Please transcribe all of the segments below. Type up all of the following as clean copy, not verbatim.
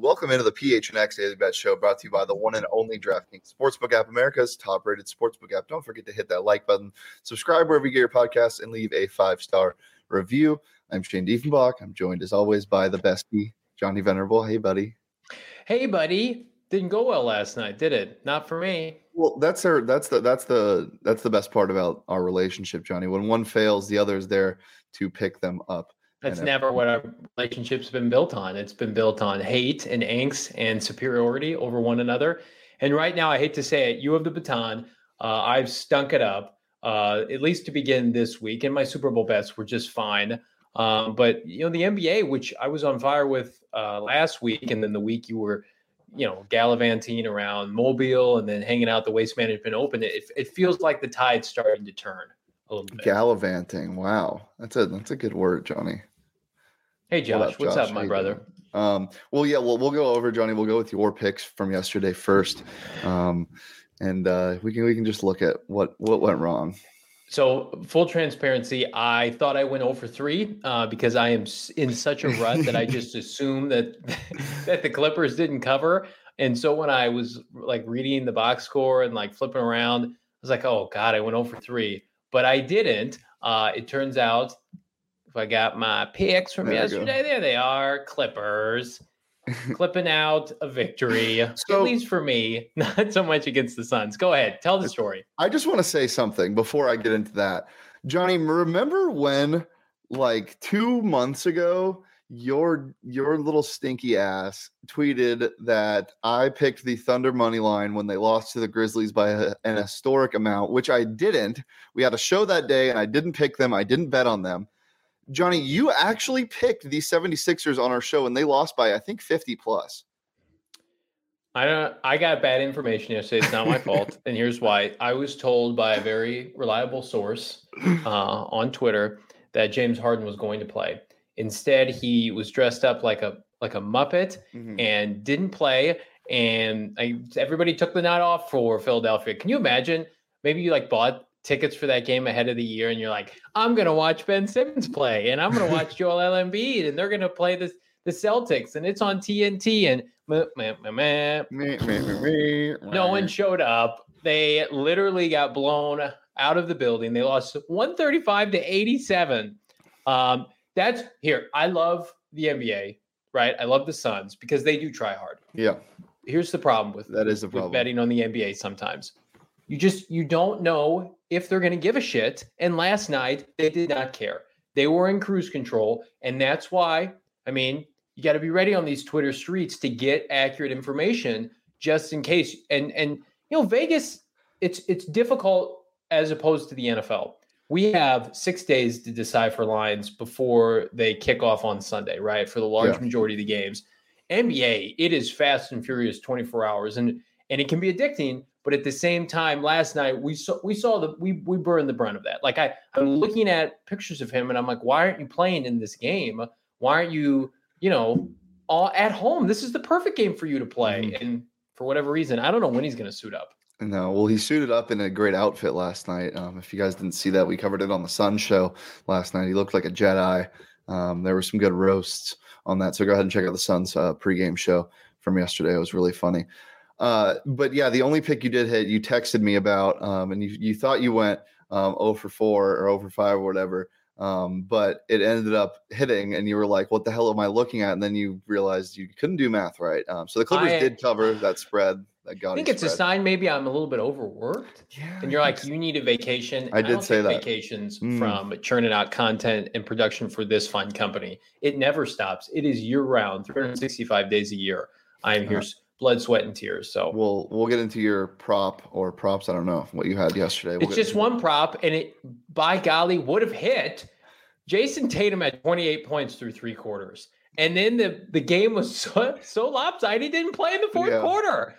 Welcome into the PHNX Daily Bet Show, brought to you by the one and only DraftKings Sportsbook app, America's top-rated sportsbook app. Don't forget to hit that like button, subscribe wherever you get your podcasts, and leave a 5-star review. I'm Shane Diefenbach. I'm joined, as always, by the bestie, Johnny Venerable. Hey, buddy. Hey, buddy. Didn't go well last night, did it? Not for me. Well, that's the best part about our relationship, Johnny. When one fails, the other is there to pick them up. That's never what our relationship's been built on. It's been built on hate and angst and superiority over one another. And right now, I hate to say it, you have the baton. I've stunk it up, at least to begin this week. And my Super Bowl bets were just fine. But, the NBA, which I was on fire with last week, and then the week you were, gallivanting around Mobile and then hanging out the Waste Management Open, it feels like the tide's starting to turn a little bit. Gallivanting. Wow. That's a good word, Johnny. Hey, Josh. What's up, my brother? We'll go over, Johnny. We'll go with your picks from yesterday first. And we can just look at what went wrong. So full transparency, I thought I went 0 for 3 because I am in such a rut that I just assumed that the Clippers didn't cover. And so when I was like reading the box score and like flipping around, I was like, oh God, I went 0 for 3. But I didn't. It turns out if I got my picks from yesterday, there they are, Clippers. Clipping out a victory, at least for me, not so much against the Suns. Go ahead. Tell the story. I just want to say something before I get into that. Johnny, remember when like 2 months ago, your little stinky ass tweeted that I picked the Thunder money line when they lost to the Grizzlies by an historic amount, which I didn't. We had a show that day and I didn't pick them. I didn't bet on them. Johnny, you actually picked the 76ers on our show, and they lost by, I think, 50 plus. I got bad information yesterday. It's not my fault. And here's why. I was told by a very reliable source on Twitter that James Harden was going to play. Instead, he was dressed up like a Muppet and didn't play. And everybody took the night off for Philadelphia. Can you imagine? Maybe you bought tickets for that game ahead of the year, and you're like, I'm going to watch Ben Simmons play, and I'm going to watch Joel Embiid, and they're going to play the Celtics, and it's on TNT, and no one showed up. They literally got blown out of the building. They lost 135-87. That's here. I love the NBA, right? I love the Suns because they do try hard. Yeah. Here's the problem with betting on the NBA sometimes. You don't know if they're going to give a shit. And last night, they did not care. They were in cruise control. And that's why, you got to be ready on these Twitter streets to get accurate information just in case. And Vegas, it's difficult as opposed to the NFL. We have 6 days to decipher lines before they kick off on Sunday, right? For the large majority of the games. NBA, it is fast and furious 24 hours. And it can be addicting. But at the same time, last night we burned the brunt of that. I'm looking at pictures of him, and I'm like, why aren't you playing in this game? Why aren't you, all at home? This is the perfect game for you to play. And for whatever reason, I don't know when he's going to suit up. No, well, he suited up in a great outfit last night. If you guys didn't see that, we covered it on the Sun show last night. He looked like a Jedi. There were some good roasts on that. So go ahead and check out the Suns pregame show from yesterday. It was really funny. But yeah, the only pick you did hit, you texted me about, and you thought you went 0 for 4 or 0 for 5 or whatever. But it ended up hitting, and you were like, what the hell am I looking at? And then you realized you couldn't do math right. So the Clippers did cover that spread. I think it's a sign maybe I'm a little bit overworked. Yeah, and you're like, you need a vacation. I did say that. Vacations from churning out content and production for this fine company. It never stops. It is year round, 365 days a year. I'm here. Blood, sweat, and tears. So we'll get into your prop or props. I don't know what you had yesterday. It's just one prop, and it, by golly, would have hit. Jason Tatum had 28 points through 3 quarters, and then the game was so lopsided he didn't play in the fourth quarter.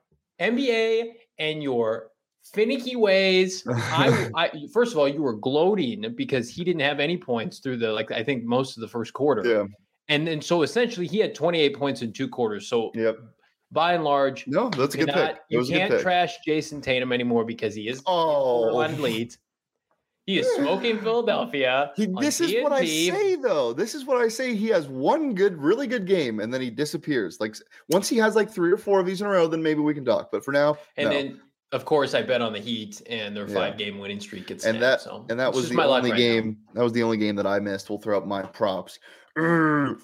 NBA and your finicky ways. I first of all, you were gloating because he didn't have any points through I think most of the first quarter. Yeah, and then so essentially he had 28 points in 2 quarters. So by and large, no, that's a good pick. You can't trash Jason Tatum anymore because he is on leads. He is smoking Philadelphia. This is what I say, though. This is what I say. He has one really good game, and then he disappears. Like once he has like 3 or 4 of these in a row, then maybe we can talk. But for now, then of course I bet on the Heat and their 5-game winning streak gets snapped. That was the only game. That was the only game that I missed. We'll throw up my props. Darius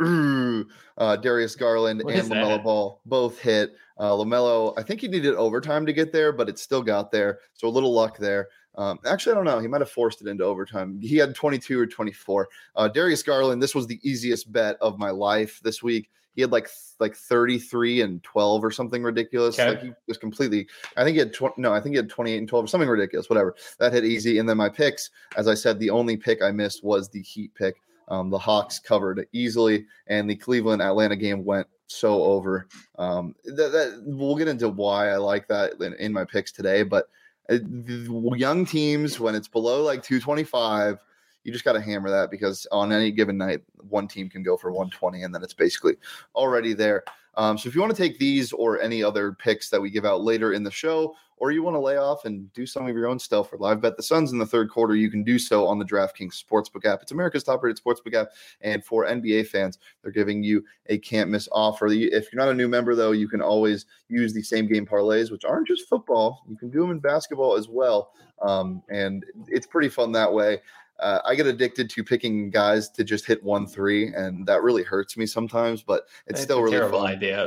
Garland and LaMelo Ball both hit. LaMelo, I think he needed overtime to get there, but it still got there. So a little luck there. Actually, I don't know. He might have forced it into overtime. He had 22 or 24. Darius Garland, this was the easiest bet of my life this week. He had like 33 and 12 or something ridiculous. Okay. Like he was completely. I think he had 28 and 12 or something ridiculous. Whatever. That hit easy. And then my picks, as I said, the only pick I missed was the Heat pick. The Hawks covered easily, and the Cleveland Atlanta game went so over. We'll get into why I like that in my picks today, but young teams, when it's below like 225, you just got to hammer that, because on any given night, one team can go for 120, and then it's basically already there. So if you want to take these or any other picks that we give out later in the show, or you want to lay off and do some of your own stuff or live bet the Suns in the third quarter, you can do so on the DraftKings Sportsbook app. It's America's top-rated sportsbook app, and for NBA fans, they're giving you a can't-miss offer. If you're not a new member, though, you can always use the same-game parlays, which aren't just football. You can do them in basketball as well, and it's pretty fun that way. I get addicted to picking guys to just hit 1-3, and that really hurts me sometimes, but it's still really terrible fun. Idea.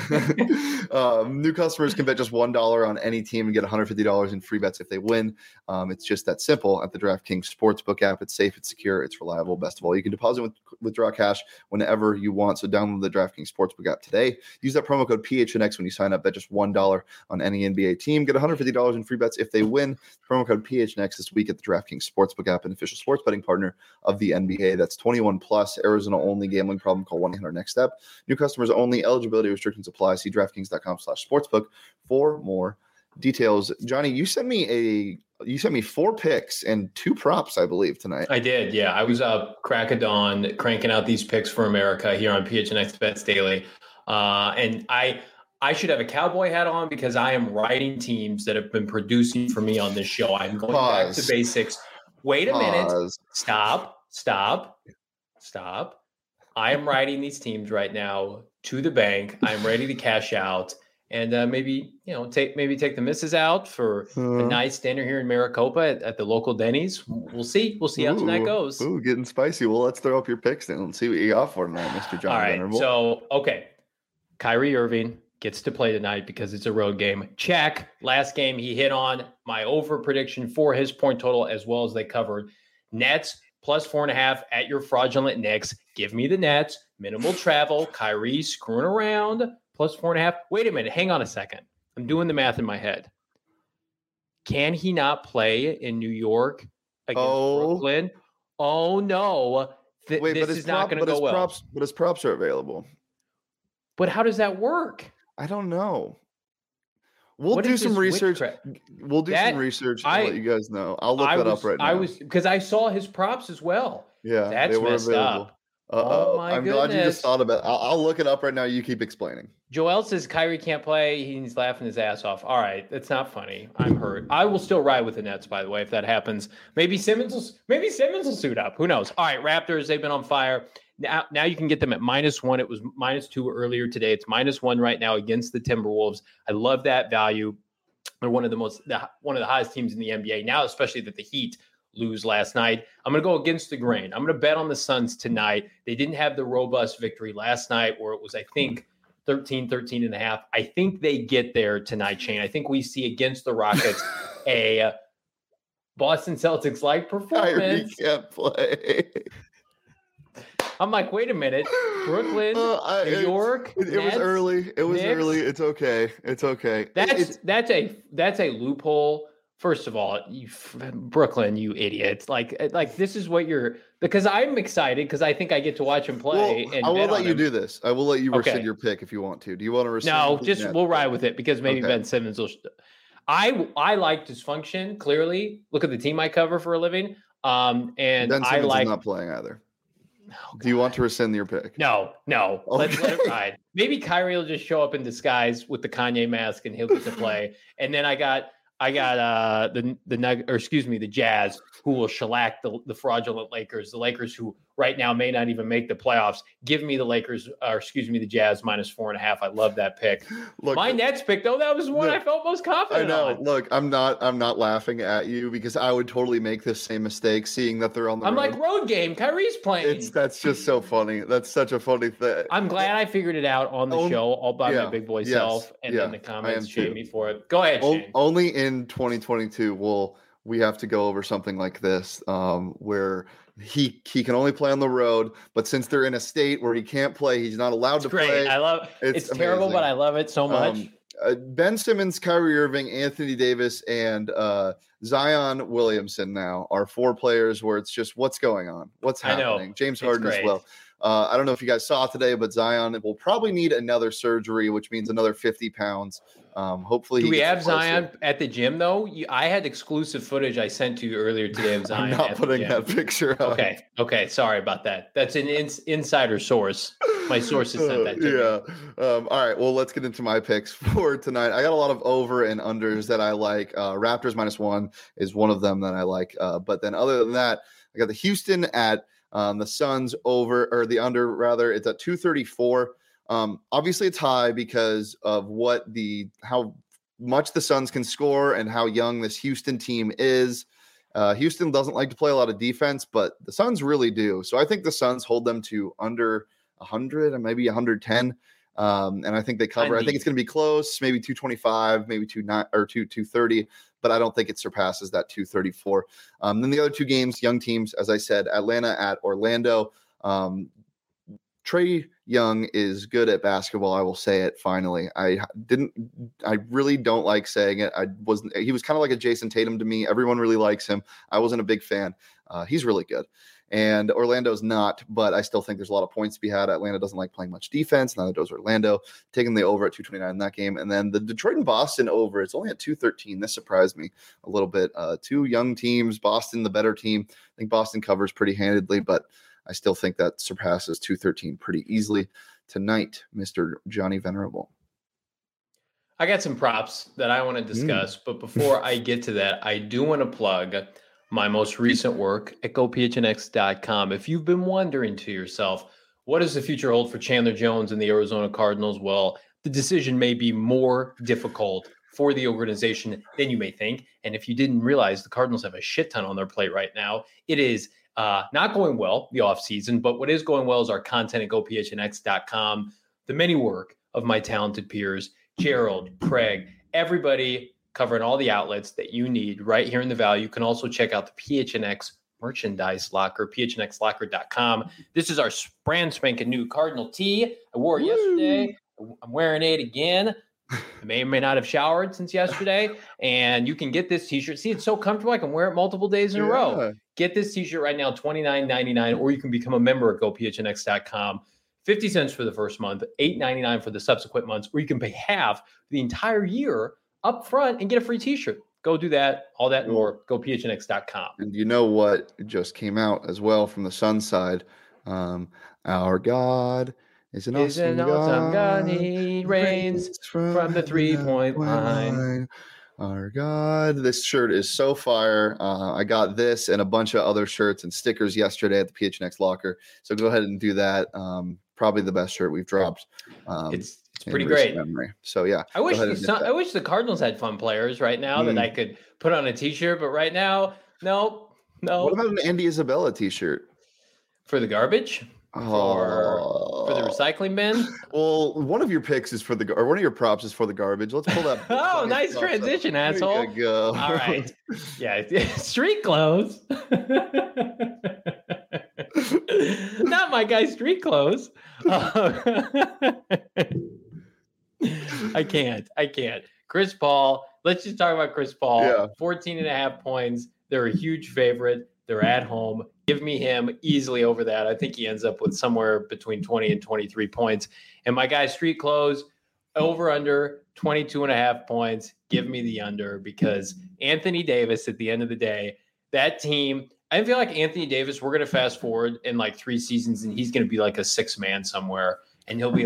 New customers can bet just $1 on any team and get $150 in free bets if they win. It's just that simple at the DraftKings Sportsbook app. It's safe, it's secure, it's reliable. Best of all, you can deposit withdraw cash whenever you want. So download the DraftKings Sportsbook app today. Use that promo code PHNX when you sign up. Bet just $1 on any NBA team. Get $150 in free bets if they win. Promo code PHNX this week at the DraftKings Sportsbook app, an official sports betting partner of the NBA. That's 21 plus, Arizona only. Gambling problem? Call 1-800-NEXT-STEP. New customers only. Eligibility restrictions apply. See DraftKings.com/sportsbook for more details. Johnny, you sent me 4 picks and 2 props, I believe, tonight. I did. Yeah, I was up crack of dawn cranking out these picks for America here on PHNX Bets Daily, and I should have a cowboy hat on because I am riding teams that have been producing for me on this show. I'm going back to basics. Wait a minute. Stop. I am riding these teams right now to the bank. I'm ready to cash out and maybe take the misses out for a nice dinner here in Maricopa at the local Denny's. We'll see how tonight goes. Ooh, getting spicy. Well, let's throw up your picks then. Let's see what you got for tonight, Mr. John. All right. Venerable. So, okay. Kyrie Irving gets to play tonight because it's a road game. Check. Last game, he hit on my over prediction for his point total as well as they covered. Nets plus 4.5 at your fraudulent Knicks. Give me the Nets. Minimal travel. Kyrie screwing around. Plus 4.5. Wait a minute. Hang on a second. I'm doing the math in my head. Can he not play in New York against Brooklyn? Oh, no. This is not going to go well. But his props are available. But how does that work? I don't know. We'll do some research. We'll do some research and let you guys know. I'll look that up right now. Because I saw his props as well. Yeah, that's messed up. Oh my goodness. I'm glad you just thought about it. I'll look it up right now. You keep explaining. Joel says Kyrie can't play. He's laughing his ass off. All right, that's not funny. I'm hurt. I will still ride with the Nets, by the way, if that happens. Maybe Simmons will suit up. Who knows? All right, Raptors, they've been on fire. Now you can get them at -1. It was -2 earlier today. It's -1 right now against the Timberwolves. I love that value. They're one of the highest teams in the NBA now, especially that the Heat lose last night. I'm going to go against the grain. I'm going to bet on the Suns tonight. They didn't have the robust victory last night where it was, I think, 13.5. I think they get there tonight, Shane. I think we see against the Rockets a Boston Celtics-like performance. Kyrie can't play. I'm like, wait a minute. Brooklyn, New York. It was early. It was Knicks. Early. It's okay. It's okay. That's a loophole. First of all, Brooklyn, you idiots! Like this is what you're. Because I'm excited because I think I get to watch him play. Well, I will let you do this. I will let you rescind your pick if you want to. Do you want to rescind? No, we'll ride with it because maybe Ben Simmons will. I like dysfunction. Clearly, look at the team I cover for a living. And Ben Simmons is not playing either. Oh, do you want to rescind your pick? No. Okay. Let's let it ride. Maybe Kyrie will just show up in disguise with the Kanye mask and he'll get to play. And then I got I got the Jazz, who will shellac the fraudulent Lakers. The Lakers, who right now may not even make the playoffs. Give me the Lakers, the Jazz -4.5. I love that pick. Look, my Nets pick, though, that was one I felt most confident on. Look, I'm not laughing at you because I would totally make this same mistake, seeing that they're on the road. Like, road game. Kyrie's playing. That's just so funny. That's such a funny thing. I'm glad I figured it out on the show all by my big boy self, and then the comments shame me for it. Go ahead, Shane. Only in 2022 will we have to go over something like this, where he can only play on the road, but since they're in a state where he can't play, he's not allowed to play. I love it's terrible, but I love it so much. Ben Simmons, Kyrie Irving, Anthony Davis, and Zion Williamson now are 4 players where it's just what's going on, what's happening. James Harden as well. I don't know if you guys saw today, but Zion will probably need another surgery, which means another 50 pounds. Hopefully, do we have Zion at the gym though? I had exclusive footage I sent to you earlier today of Zion. I'm not putting that picture up. Okay. Sorry about that. That's an insider source. My sources sent that to me. All right. Well, let's get into my picks for tonight. I got a lot of over and unders that I like. Raptors -1 is one of them that I like. But then other than that, I got the Houston at the Suns over, or the under rather. It's at 234. Obviously it's high because of how much the Suns can score and how young this Houston team is. Houston doesn't like to play a lot of defense, but the Suns really do. So I think the Suns hold them to under 100 and maybe 110. And I think they cover. I think it's going to be close, maybe 225, maybe 230, but I don't think it surpasses that 234. Then the other 2 games, young teams, as I said, Atlanta at Orlando. Trae Young is good at basketball. I will say it finally. I really don't like saying it. He was kind of like a Jason Tatum to me. Everyone really likes him. I wasn't a big fan. He's really good. And Orlando's not, but I still think there's a lot of points to be had. Atlanta doesn't like playing much defense. Neither does Orlando. Taking the over at 229 in that game. And then the Detroit and Boston over, it's only at 213. This surprised me a little bit. 2 young teams, Boston the better team. I think Boston covers pretty handedly, but I still think that surpasses 213 pretty easily tonight, Mr. Johnny Venerable. I got some props that I want to discuss, but before I get to that, I do want to plug my most recent work at GoPHNX.com. If you've been wondering to yourself, what does the future hold for Chandler Jones and the Arizona Cardinals? Well, the decision may be more difficult for the organization than you may think. And if you didn't realize, the Cardinals have a shit ton on their plate right now. It is not going well, the offseason, but what is going well is our content at GoPHNX.com, the many work of my talented peers, Gerald, Craig, everybody covering all the outlets that you need right here in the Valley. You can also check out the PHNX merchandise locker, phnxlocker.com. This is our brand spanking new Cardinal tee. I wore it yesterday. I'm wearing it again. I may or may not have showered since yesterday. And you can get this t-shirt. See, it's so comfortable. I can wear it multiple days in a row. Get this t-shirt right now, $29.99, or you can become a member at GoPHNX.com. 50 cents for the first month, $8.99 for the subsequent months, or you can pay half the entire year up front and get a free t-shirt. Go do that, all that and more. GoPHNX.com. And you know what just came out as well from the Sun side? Our God is an awesome God. He reigns from the 3-point line. Our God, this shirt is so fire. I got this and a bunch of other shirts and stickers yesterday at the PHNX locker. So go ahead and do that. Probably the best shirt we've dropped. It's pretty great. Memory. So yeah, I wish the Cardinals had fun players right now that I could put on a t-shirt, but right now, no. What about an Andy Isabella t-shirt? For the garbage? For the recycling bin? Well, one of your picks is one of your props is for the garbage. Let's pull that. Oh, nice transition, asshole. There you go. All right. Yeah, street clothes. Not my guy's street clothes. I can't. Chris Paul. Let's just talk about Chris Paul. Yeah. 14.5 points. They're a huge favorite. They're at home. Give me him easily over that. I think he ends up with somewhere between 20 and 23 points. And my guy, street clothes, over under 22.5 points. Give me the under, because Anthony Davis, at the end of the day, that team, I feel like Anthony Davis, we're going to fast forward in like 3 seasons and he's going to be like a 6-man somewhere. And he'll be like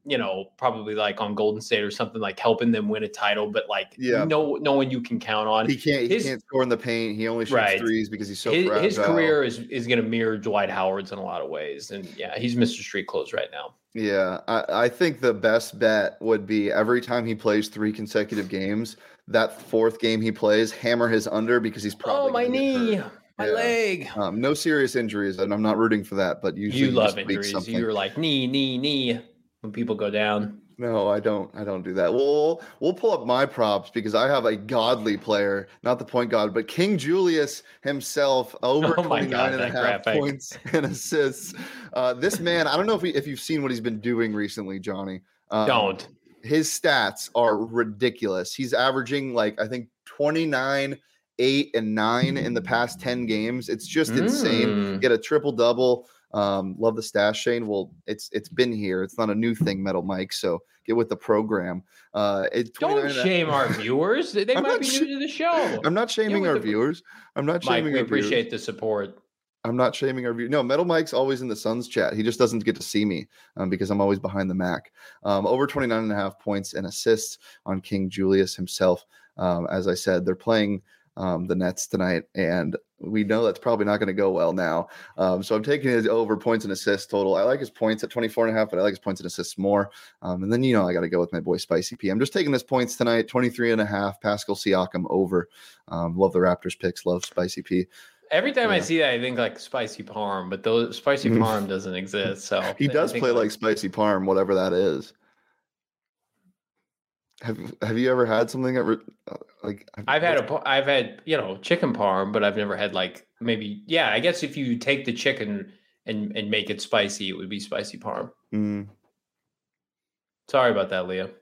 probably like on Golden State or something, like helping them win a title, but like no one you can count on. He can't score in the paint. He only shoots threes because he's so fragile. His career is going to mirror Dwight Howard's in a lot of ways. And he's Mr. Street Clothes right now. Yeah, I think the best bet would be every time he plays 3 consecutive games, that 4th game he plays, hammer his under because he's probably my knee. My leg. No serious injuries, and I'm not rooting for that. But usually you love injuries. You're like knee when people go down. No, I don't do that. We'll pull up my props because I have a godly player, not the point guard, but King Julius himself, over 29.5 points and assists. This man, I don't know if you've seen what he's been doing recently, Johnny. Don't. His stats are ridiculous. He's averaging I think 29, 8, and 9 in the past 10 games. It's just insane. Get a triple-double. Love the stash, Shane. Well, it's been here. It's not a new thing, Metal Mike. So get with the program. Don't shame our viewers. They might be new to the show. I'm not shaming our viewers. I'm not shaming. Mike, we appreciate the support. I'm not shaming our viewers. No, Metal Mike's always in the Suns chat. He just doesn't get to see me because I'm always behind the Mac. Over 29.5 points and assists on King Julius himself. As I said, they're playing the Nets tonight, and we know that's probably not going to go well now. So I'm taking his over points and assists total. I like his points at 24.5, but I like his points and assists more. And then, I got to go with my boy Spicy P. I'm just taking his points tonight, 23.5, Pascal Siakam over. Love the Raptors picks, love Spicy P. Every time I see that, I think like Spicy Parm, but those Spicy Parm doesn't exist. So he does play like Spicy Parm, whatever that is. Have you ever had something that I've had chicken parm, but I've never had I guess if you take the chicken and make it spicy, it would be spicy parm. Sorry about that, Leah.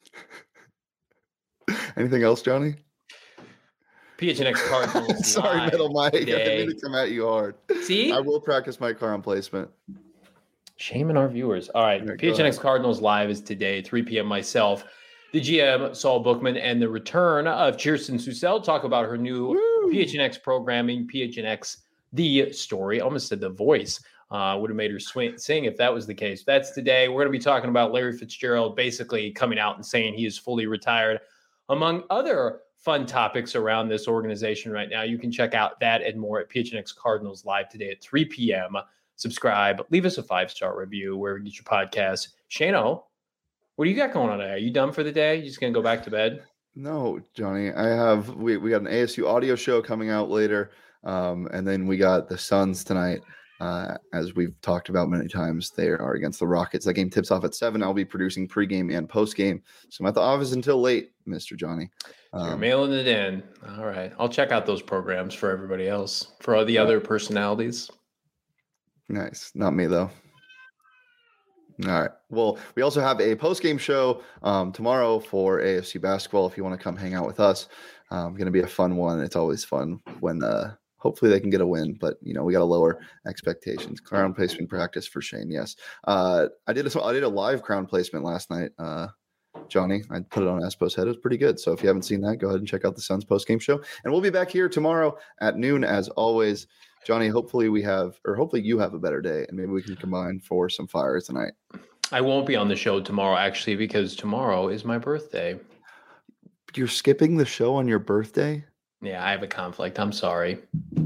Anything else, Johnny? PHNX Cardinals. Sorry, Metal Mike. I didn't mean to come at you hard. See, I will practice my car on placement. Shaming our viewers. All right, PHNX Cardinals live is today, 3 p.m. Myself, the GM, Saul Bookman, and the return of Kirsten Susel. Talk about her new PHNX programming, PHNX The Story. I almost said The Voice. Would have made her sing if that was the case. That's today. We're going to be talking about Larry Fitzgerald basically coming out and saying he is fully retired, among other fun topics around this organization right now. You can check out that and more at PHNX Cardinals live today at 3 p.m. Subscribe. Leave us a 5-star review wherever you get your podcasts. Shano, what do you got going on today? Are you done for the day? You just going to go back to bed? No, Johnny. We got an ASU audio show coming out later. And then we got the Suns tonight. As we've talked about many times, they are against the Rockets. That game tips off at 7. I'll be producing pregame and postgame. So I'm at the office until late, Mr. Johnny. You're mailing it in. All right. I'll check out those programs for everybody else, for all the other personalities. Nice. Not me, though. All right. Well, we also have a post-game show tomorrow for AFC basketball. If you want to come hang out with us, going to be a fun one. It's always fun when hopefully they can get a win, but we got to lower expectations. Crown placement practice for Shane. Yes. I did a live crown placement last night. Johnny, I put it on Espo's head. It was pretty good. So if you haven't seen that, go ahead and check out the Suns post-game show. And we'll be back here tomorrow at noon as always. Johnny, hopefully you have a better day, and maybe we can combine for some fire tonight. I won't be on the show tomorrow, actually, because tomorrow is my birthday. You're skipping the show on your birthday? Yeah, I have a conflict. I'm sorry.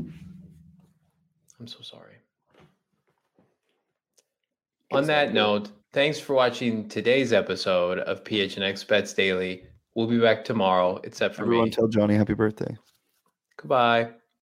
I'm so sorry. On that note, thanks for watching today's episode of PHNX Bets Daily. We'll be back tomorrow, except for Everyone tell Johnny happy birthday. Goodbye.